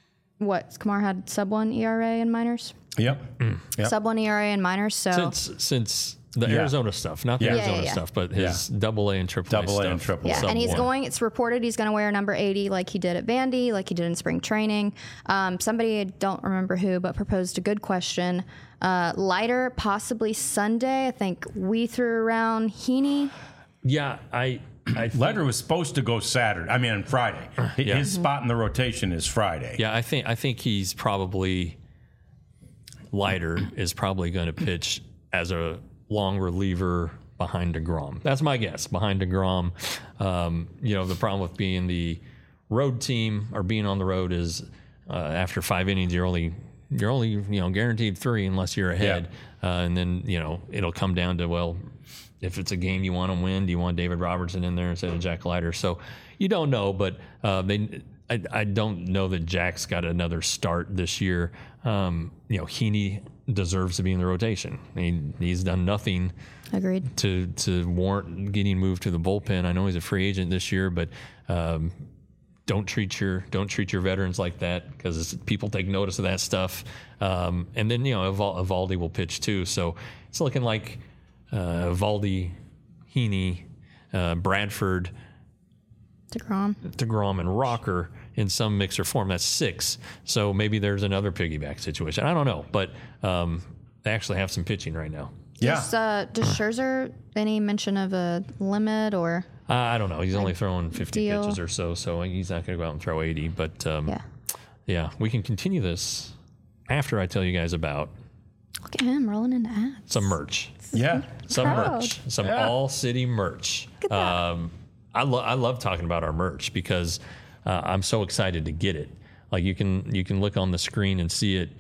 Kumar had sub-1 ERA in minors? Yep. Sub-1 ERA in minors. So since the Arizona stuff, not the Arizona stuff, but his double A and triple A stuff. And triple A. Yeah, and it's reported he's going to wear number 80 like he did at Vandy, like he did in spring training. Somebody, I don't remember who, but proposed a good question. Leiter, possibly Sunday. I think we threw around Heaney. Yeah, I Leiter was supposed to go Friday. His spot in the rotation is Friday. Yeah, I think he's probably, Leiter is probably going to pitch as a long reliever behind DeGrom. That's my guess, behind DeGrom. The problem with being the road team or being on the road is after 5 innings, you're only guaranteed 3 unless you're ahead. And then, it'll come down to, well, if it's a game you want to win, do you want David Robertson in there instead of Jack Leiter? So you don't know, but I don't know that Jack's got another start this year. Heaney deserves to be in the rotation. He's done nothing Agreed. to warrant getting moved to the bullpen. I know he's a free agent this year, but don't treat your veterans like that, because people take notice of that stuff. And then Evaldi will pitch too, so it's looking like Evaldi, Heaney, Bradford, DeGrom, and Rocker in some mix or form. That's 6. So maybe there's another piggyback situation. I don't know, but they actually have some pitching right now. Yeah. Does Scherzer, any mention of a limit or? I don't know. He's only throwing 50 pitches or so he's not going to go out and throw 80. But yeah, we can continue this after I tell you guys about. Look at him rolling into ads. Some merch. Yeah. Some merch. Some All City merch. Look at that. I love talking about our merch because I'm so excited to get it. Like you can look on the screen and see it.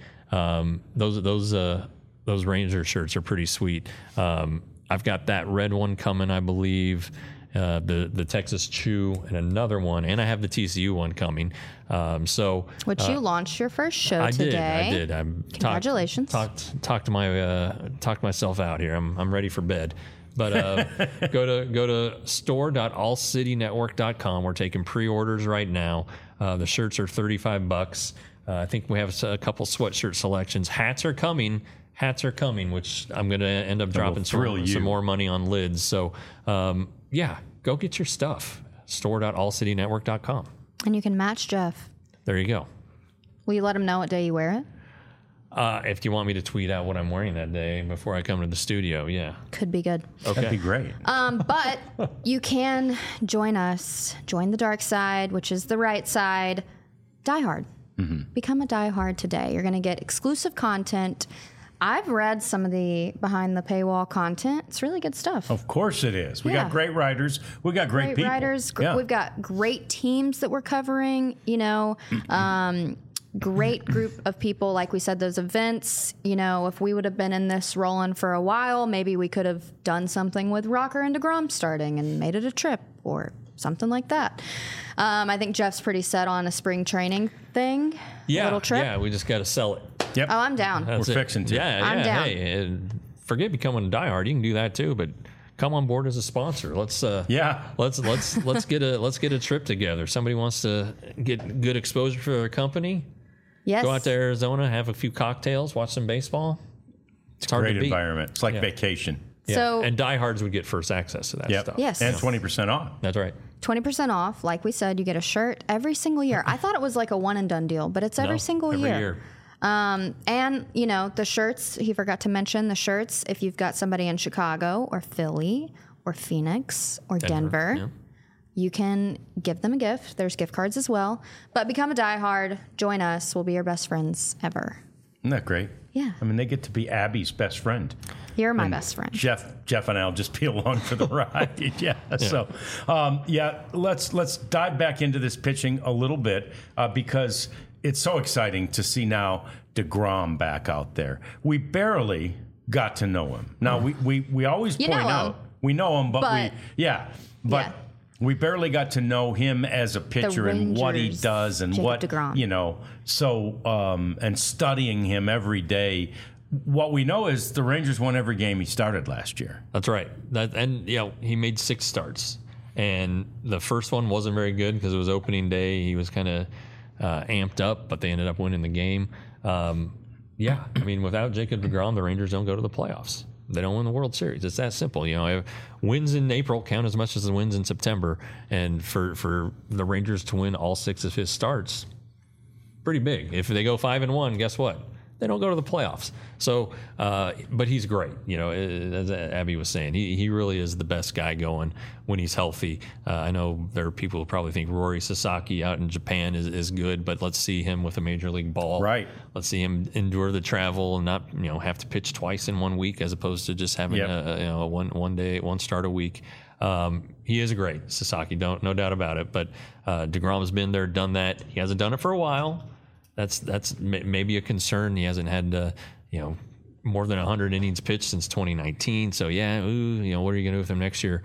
Those Ranger shirts are pretty sweet. I've got that red one coming, I believe, the Texas Chew, and another one, and I have the TCU one coming. Which you launched your first show today. I did. Congratulations. Talked myself out here. I'm ready for bed. But go to store.allcitynetwork.com. We're taking pre-orders right now. The shirts are $35. I think we have a couple sweatshirt selections. Hats are coming, which I'm going to end up dropping some more money on lids. So, go get your stuff. Store.allcitynetwork.com. And you can match Jeff. There you go. Will you let him know what day you wear it? If you want me to tweet out what I'm wearing that day before I come to the studio, yeah. Could be good. Okay. That'd be great. But you can join us. Join the dark side, which is the right side. Die Hard. Mm-hmm. Become a Die Hard today. You're going to get exclusive content. I've read some of the behind the paywall content. It's really good stuff. Of course it is. We got great writers. We got great people. Writers. We've got great teams that we're covering. Great group of people. Like we said, those events. If we would have been in this rolling for a while, maybe we could have done something with Rocker and DeGrom starting and made it a trip or something like that. I think Jeff's pretty set on a spring training thing. Yeah, little trip. Yeah, we just got to sell it. Yep. Oh, I'm down. We're fixing to. Yeah, I'm down. Hey, forget becoming a diehard. You can do that too, but come on board as a sponsor. Let's get a trip together. Somebody wants to get good exposure for their company. Yes. Go out to Arizona, have a few cocktails, watch some baseball. It's a great environment. It's like vacation. Yeah. So, and diehards would get first access to that stuff. Yes. And 20% off. That's right. 20% off. Like we said, you get a shirt every single year. I thought it was like a one and done deal, but it's every single year. And, the shirts, he forgot to mention the shirts. If you've got somebody in Chicago or Philly or Phoenix or Denver, you can give them a gift. There's gift cards as well. But become a diehard. Join us. We'll be your best friends ever. Isn't that great? Yeah. I mean, they get to be Abby's best friend. You're my best friend. Jeff and I'll just be along for the ride. So, let's dive back into this pitching a little bit because it's so exciting to see now DeGrom back out there. We barely got to know him. Now, we always point out we know him, but we barely got to know him as a pitcher and what he does and Jacob DeGrom. And studying him every day. What we know is the Rangers won every game he started last year. That's right. He made 6 starts. And the first one wasn't very good because it was opening day. He was kind of amped up, but they ended up winning the game. Without Jacob DeGrom, the Rangers don't go to the playoffs. They don't win the World Series. It's that simple. Wins in April count as much as the wins in September. And for the Rangers to win all 6 of his starts, pretty big. If they go 5-1, guess what? They don't go to the playoffs. So, but he's great. As Abby was saying, he really is the best guy going when he's healthy. I know there are people who probably think Rory Sasaki out in Japan is good, but let's see him with a major league ball. Right. Let's see him endure the travel and not have to pitch twice in 1 week as opposed to just having a one start a week. He is great, Sasaki. No doubt about it. But DeGrom's been there, done that. He hasn't done it for a while. That's maybe a concern. He hasn't had more than 100 innings pitched since 2019. So what are you going to do with him next year?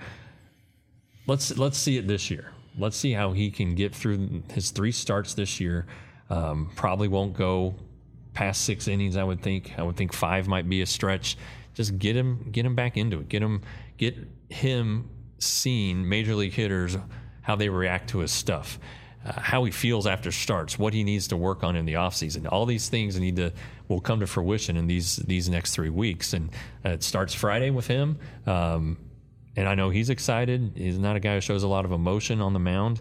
Let's see it this year. Let's see how he can get through his 3 starts this year. Probably won't go past 6 innings. I would think 5 might be a stretch. Just get him back into it. Get him seeing major league hitters, how they react to his stuff. How he feels after starts, what he needs to work on in the offseason. All these things will come to fruition in these next 3 weeks. And it starts Friday with him. And I know he's excited. He's not a guy who shows a lot of emotion on the mound.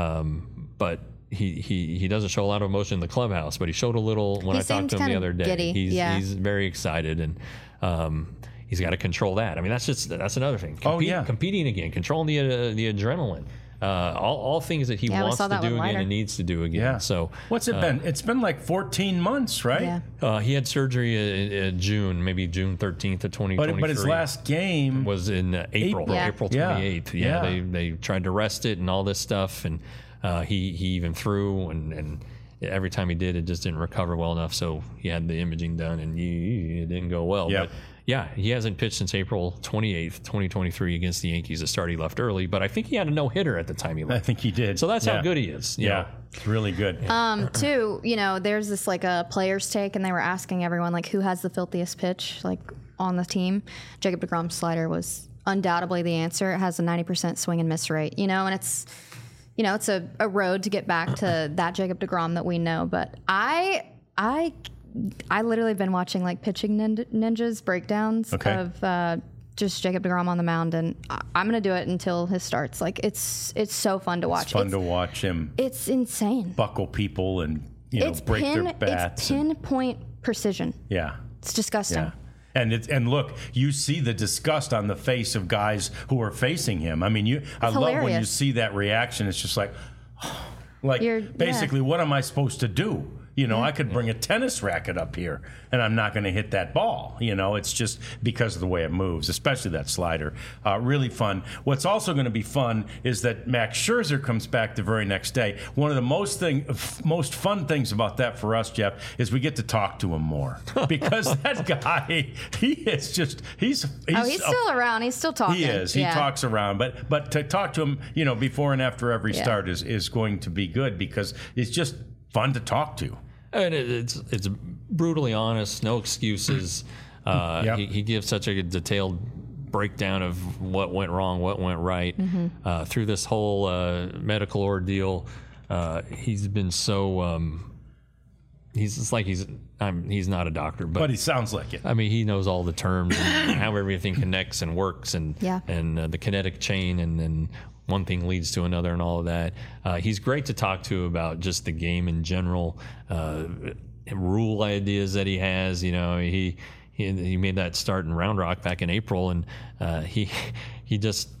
But he doesn't show a lot of emotion in the clubhouse, but he showed a little when I talked to him the other day. Giddy. He's very excited, and he's got to control that. I mean, that's another thing. Competing again, controlling the adrenaline. All things that he wants to do again and needs to do again. Yeah. So what's it been? It's been like 14 months, right? Yeah. He had surgery in June, maybe June 13th of 2023. But his last game was in April. April 28th. Yeah. They tried to rest it and all this stuff, and he even threw, and every time he did, it just didn't recover well enough. So he had the imaging done, and it didn't go well. Yep. But Yeah, he hasn't pitched since April 28th, 2023 against the Yankees. A start he left early, but I think he had a no-hitter at the time he I left. think he did. So that's Yeah. how good he is. you know. It's really good. Too, there's this like a player's take, and they were asking everyone like who has the filthiest pitch like on the team. Jacob deGrom's slider was undoubtedly the answer. It has a 90% swing and miss rate, and it's it's a road to get back to that Jacob deGrom that we know. But I literally have been watching like pitching ninjas breakdowns of just Jacob deGrom on the mound, and I'm gonna do it until his starts. Like it's so fun to watch. It's fun to watch him. It's insane. Buckle people and break their bats. It's pinpoint precision. Yeah. It's disgusting. Yeah. And look, you see the disgust on the face of guys who are facing him. I mean, I love when you hilarious. see that reaction. It's just like basically, what am I supposed to do? I could bring a tennis racket up here, and I'm not going to hit that ball. It's just because of the way it moves, especially that slider. Really fun. What's also going to be fun is that Max Scherzer comes back the very next day. One of the most fun things about that for us, Jeff, is we get to talk to him more because that guy, he's still around. He's still talking. He is. He talks around, but to talk to him, before and after every start is going to be good because it's just fun to talk to. And it's brutally honest, no excuses. He gives such a detailed breakdown of what went wrong, what went right through this whole medical ordeal. He's been so. He's not a doctor, but he sounds like it. I mean, he knows all the terms and how everything connects and works, and the kinetic chain, and one thing leads to another, and all of that. He's great to talk to about just the game in general, rule ideas that he has. He made that start in Round Rock back in April, and he just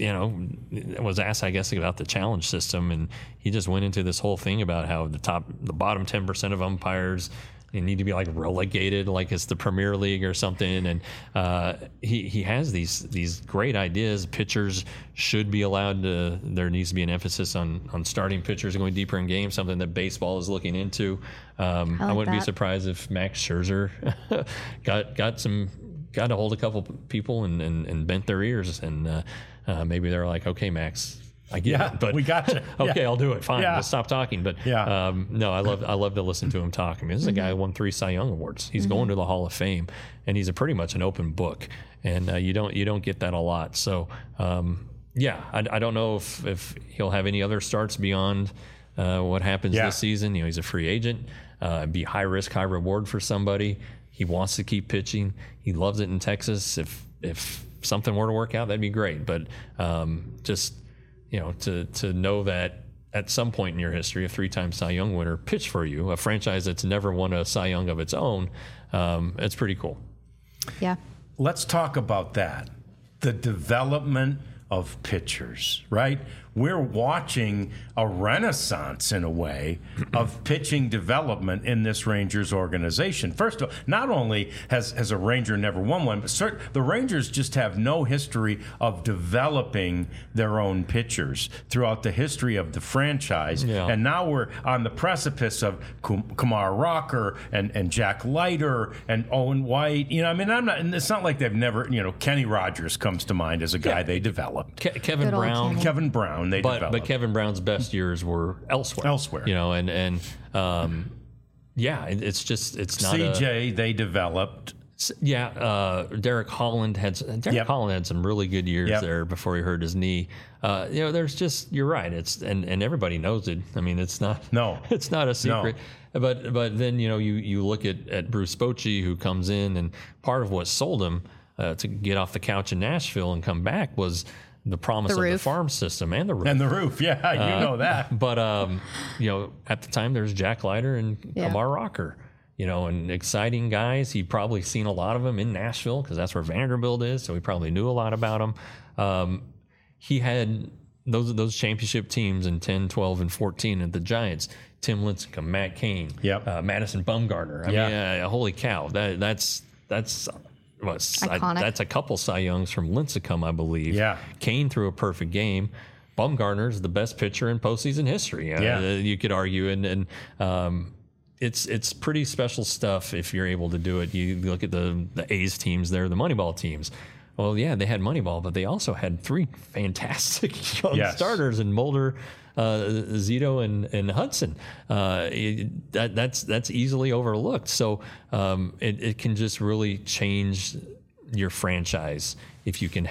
was asked, I guess, about the challenge system, and he just went into this whole thing about how the bottom 10% of umpires need to be like relegated, like it's the Premier League or something. And he has these great ideas. Pitchers should be allowed to. There needs to be an emphasis on starting pitchers going deeper in games, something that baseball is looking into. I wouldn't be surprised if Max Scherzer got to hold a couple people and bent their ears, and maybe they're like, okay, Max, I get it, but we got you. Okay, I'll do it. Fine, let's stop talking. But no, I love to listen to him talk. I mean, this is a guy who won 3 Cy Young awards. He's going to the Hall of Fame, and he's pretty much an open book. And you don't get that a lot. So I don't know if he'll have any other starts beyond what happens this season. He's a free agent. Be high risk, high reward for somebody. He wants to keep pitching. He loves it in Texas. If something were to work out, that'd be great. But to know that at some point in your history, a 3-time Cy Young winner pitched for you, a franchise that's never won a Cy Young of its own, it's pretty cool. Yeah. Let's talk about that. The development of pitchers, right? We're watching a renaissance, in a way, of pitching development in this Rangers organization. First of all, not only has a Ranger never won one, but the Rangers just have no history of developing their own pitchers throughout the history of the franchise. Yeah. And now we're on the precipice of Kumar Rocker and Jack Leiter and Owen White. It's not like they've never, Kenny Rogers comes to mind as a guy they developed. Kevin Brown. Kevin Brown, they developed. But Kevin Brown's best years were elsewhere. It's not CJ, they developed. Derek Holland had some really good years there before he hurt his knee. There's just, you're right. It's and everybody knows it. I mean, it's not a secret. No. But then you look at Bruce Bochy, who comes in, and part of what sold him to get off the couch in Nashville and come back was the promise of the farm system and the roof. And the roof, you know that. But, at the time, there's Jack Leiter and Kumar Rocker, and exciting guys. He'd probably seen a lot of them in Nashville because that's where Vanderbilt is, so he probably knew a lot about them. He had those championship teams in 10, 12, and 14 at the Giants. Tim Lincecum, Matt Cain, Madison Bumgarner. I mean, holy cow, that's iconic. That's a couple Cy Youngs from Lincecum, I believe. Yeah. Kane threw a perfect game. Bumgarner's the best pitcher in postseason history. You could argue, and it's pretty special stuff if you're able to do it. You look at the A's teams, they're the Moneyball teams. Well, yeah, they had Moneyball, but they also had 3 fantastic young starters in Mulder, Zito, and Hudson. That's easily overlooked. So it can just really change your franchise if you can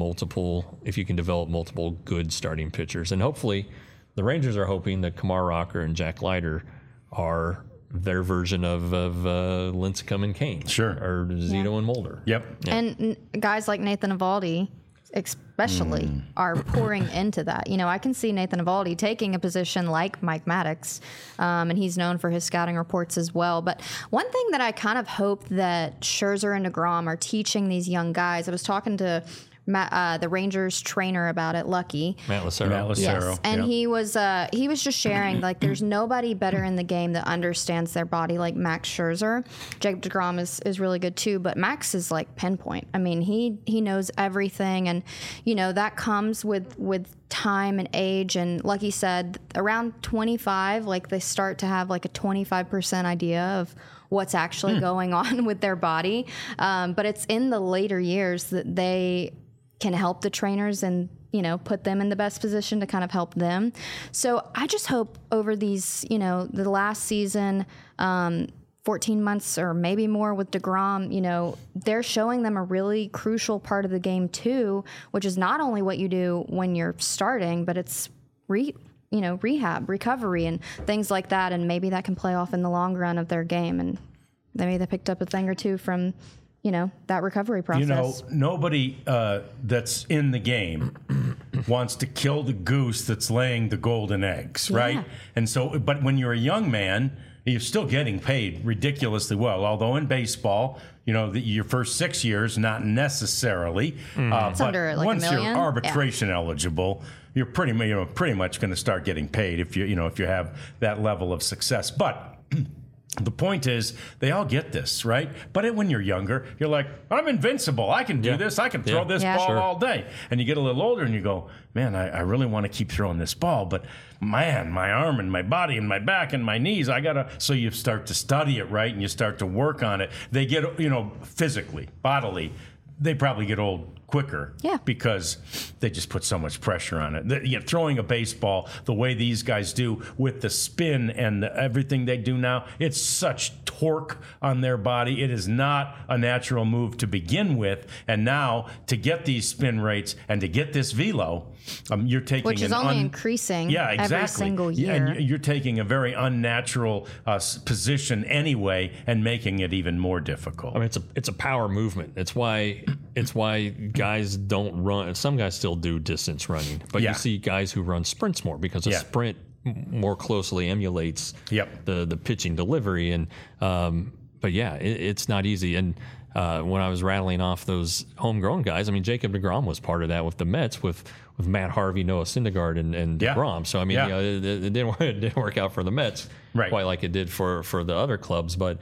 develop multiple good starting pitchers. And hopefully the Rangers are hoping that Kumar Rocker and Jack Leiter are their version of Lincecum and Kane. Sure. Or Zito and Mulder. Yep. Yeah. And guys like Nathan Eovaldi especially are pouring into that. You know, I can see Nathan Eovaldi taking a position like Mike Maddox, and he's known for his scouting reports as well. But one thing that I kind of hope that Scherzer and DeGrom are teaching these young guys, I was talking to the Rangers trainer about it, Lucky. Matt Lucero. Yes, and he was just sharing, like, there's nobody better in the game that understands their body like Max Scherzer. Jacob DeGrom is really good too, but Max is like pinpoint. I mean, he knows everything, and you know that comes with time and age. And like he said, around 25, like they start to have like a 25% idea of what's actually going on with their body. But it's in the later years that they can help the trainers and, you know, put them in the best position to kind of help them. So I just hope over these, you know, the last season, 14 months or maybe more with DeGrom, you know, they're showing them a really crucial part of the game too, which is not only what you do when you're starting, but it's rehab, recovery, and things like that. And maybe that can play off in the long run of their game. And maybe they picked up a thing or two from, you know, that recovery process. You know, nobody that's in the game wants to kill the goose that's laying the golden eggs, right? And so, but when you're a young man, you're still getting paid ridiculously well. Although in baseball, you know, your first 6 years, not necessarily. It's but under like once $1 million. you're arbitration eligible, you're pretty much going to start getting paid if you have that level of success. But the point is, they all get this, right? But when you're younger, you're like, I'm invincible. I can do this. I can throw this ball all day. And you get a little older and you go, man, I really want to keep throwing this ball. But, man, my arm and my body and my back and my knees, So you start to study it, right? And you start to work on it. They get, you know, physically, bodily, they probably get old quicker because they just put so much pressure on it. Throwing a baseball the way these guys do with the spin and everything they do now, it's such torque on their body. It is not a natural move to begin with. And now to get these spin rates and to get this velo, you're taking which is only increasing every single year. And you're taking a very unnatural position anyway and making it even more difficult. I mean, it's a power movement. It's why guys don't run. Some guys still do distance running, but you see guys who run sprints more because a sprint more closely emulates the pitching delivery. And but it's not easy. And when I was rattling off those homegrown guys, I mean, Jacob DeGrom was part of that with the Mets with Matt Harvey, Noah Syndergaard, and DeGrom. So I mean, it didn't work out for the Mets quite like it did for the other clubs. But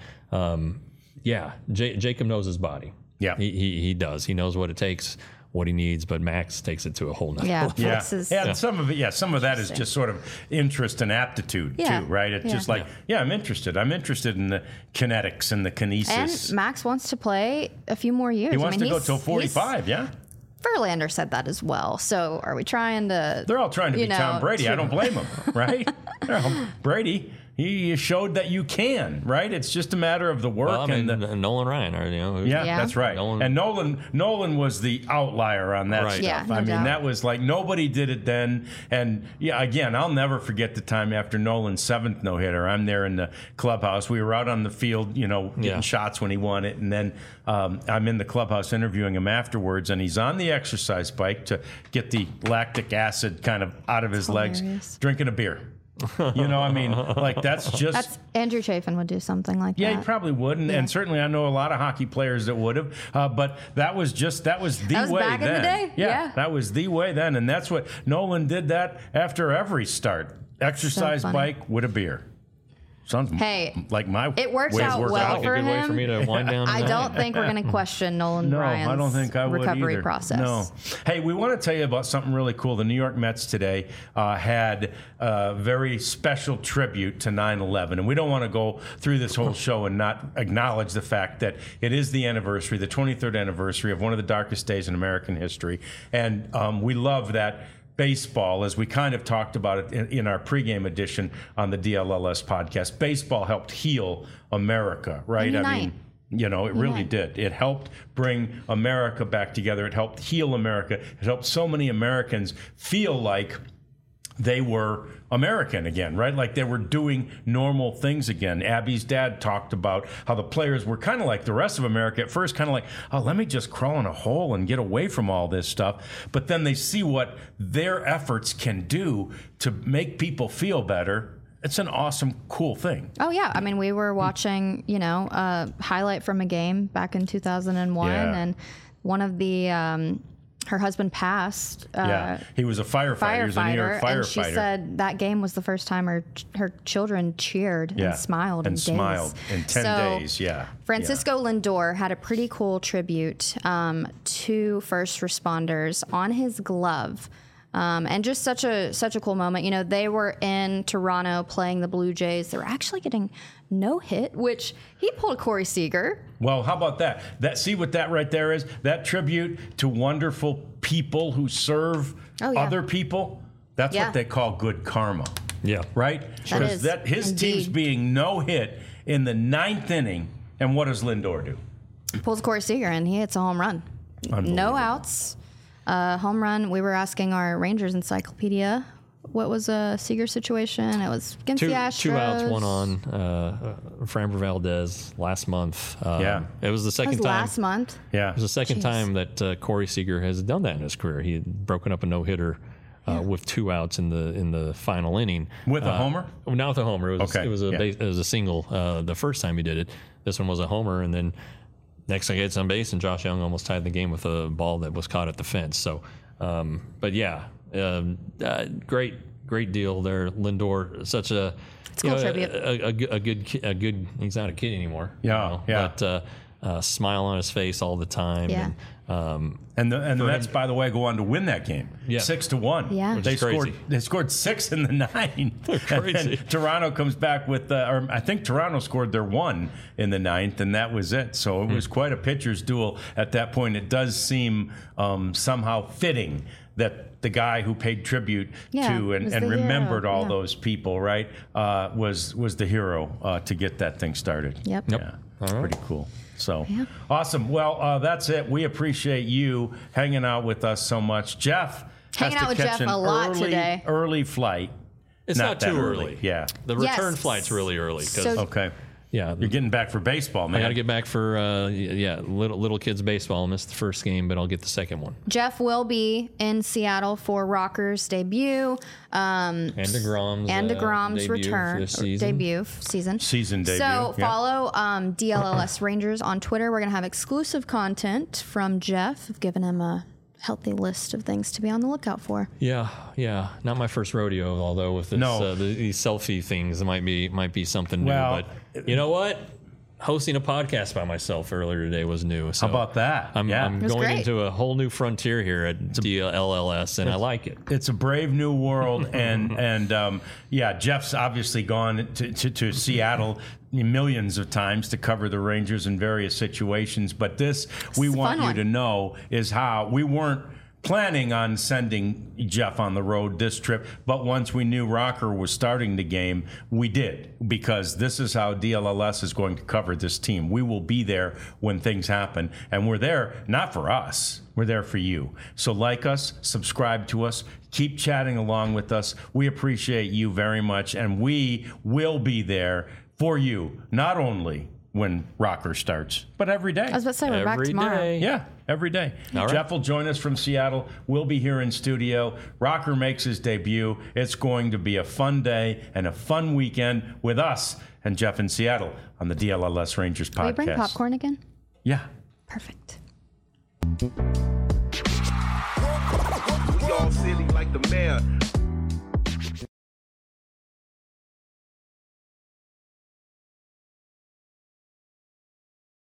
Jacob knows his body. Yeah, he does. He knows what it takes, what he needs, but Max takes it to a whole nother level. And some of that is just sort of interest and aptitude too, right? It's just like, I'm interested. I'm interested in the kinetics and the kinesis. And Max wants to play a few more years. He wants to go till 45, Verlander said that as well. So are we trying to... They're all trying to be Tom Brady. I don't blame them, right? Brady... He showed that you can, right? It's just a matter of the work. Well, I mean, Nolan Ryan, that's right. And Nolan was the outlier on that stuff. Yeah, I mean, that was like nobody did it then. And again, I'll never forget the time after Nolan's 7th no-hitter. I'm there in the clubhouse. We were out on the field, getting shots when he won it, and then I'm in the clubhouse interviewing him afterwards, and he's on the exercise bike to get the lactic acid kind of out of his legs, drinking a beer. I mean, like that's Andrew Chafin would do something like that. Yeah, he probably would, and certainly I know a lot of hockey players that would have. But that was the way back then. In the day? Yeah, that was the way then, and that's what Nolan did. That after every start, exercise bike with a beer. Sounds like my it worked way out worked well out. for a good way him. for me to wind down. I don't think we're going to question Nolan Ryan's I don't think I would recovery either. process. No. Hey, we want to tell you about something really cool. The New York Mets today had a very special tribute to 9/11, and we don't want to go through this whole show and not acknowledge the fact that it is the anniversary, the 23rd anniversary of one of the darkest days in American history, and we love that. Baseball, as we kind of talked about it in our pregame edition on the DLLS podcast, baseball helped heal America, right? I mean, it really did. It helped bring America back together. It helped heal America. It helped so many Americans feel like they were American again, right? Like they were doing normal things again. Abby's dad talked about how the players were kind of like the rest of America at first, kind of like, oh, let me just crawl in a hole and get away from all this stuff. But then they see what their efforts can do to make people feel better. It's an awesome, cool thing. Oh, yeah. I mean, we were watching, a highlight from a game back in 2001, and one of the... her husband passed. He was a firefighter. He was a New York firefighter. And she said that game was the first time her children cheered and smiled in days. Smiled in 10 days, Francisco Lindor had a pretty cool tribute to first responders on his glove. And just such a cool moment. They were in Toronto playing the Blue Jays. They were actually getting no hit, which he pulled Corey Seager. Well, how about that? See what that right there is? That tribute to wonderful people who serve other people. That's what they call good karma. Yeah. Right? Because his team's being no hit in the 9th inning. And what does Lindor do? Pulls Corey Seager and he hits a home run. No outs. Home run. We were asking our Rangers encyclopedia what was a Seager situation. It was against the Astros. 2 outs, 1 on. Framber Valdez last month. It was the second time. Last month. Yeah, it was the second time that Corey Seager has done that in his career. He had broken up a no hitter. With 2 outs in the final inning with a homer. Not with a homer. It was a single. The first time he did it, this one was a homer, and then next thing he gets on base, and Josh Young almost tied the game with a ball that was caught at the fence. So, great deal there, Lindor. Such a good. He's not a kid anymore. But smile on his face all the time. Yeah. And the Mets, by the way, go on to win that game, 6-1. Yeah, they scored 6 in the 9th. Crazy. And then Toronto comes back with, or I think Toronto scored their 1 in the 9th, and that was it. So it was quite a pitcher's duel at that point. It does seem somehow fitting that the guy who paid tribute to and remembered all those people, right, was the hero to get that thing started. Yep. Yeah, pretty cool. So awesome. Well, that's it. We appreciate you hanging out with us so much. Jeff hanging out with Jeff a lot today. Early flight. It's not too early. Yeah. The return flight's really early. Okay. Yeah, you're getting back for baseball, man. I got to get back for little kids baseball. I missed the first game, but I'll get the second one. Jeff will be in Seattle for Rocker's debut. And DeGrom's return debut season. So follow DLLS Rangers on Twitter. We're gonna have exclusive content from Jeff. I've given him a healthy list of things to be on the lookout for. Yeah. Not my first rodeo, although with this, these selfie things might be something new. But you know what? Hosting a podcast by myself earlier today was new. So how about that? I'm going into a whole new frontier here at DLLS, and I like it. It's a brave new world, and Jeff's obviously gone to Seattle millions of times to cover the Rangers in various situations. But this, we want you to know, is how we weren't planning on sending Jeff on the road this trip, but once we knew Rocker was starting the game, we did, because this is how DLLS is going to cover this team. We will be there when things happen, and we're there not for us, we're there for you. So like us, subscribe to us, keep chatting along with us. We appreciate you very much, and we will be there for you, not only when Rocker starts, but every day. I was about to say we're back tomorrow. Yeah, every day. All right. Jeff will join us from Seattle. We'll be here in studio. Rocker makes his debut. It's going to be a fun day and a fun weekend with us and Jeff in Seattle on the DLLS Rangers podcast. Can we bring popcorn again? Yeah. Perfect. We all silly like the mayor.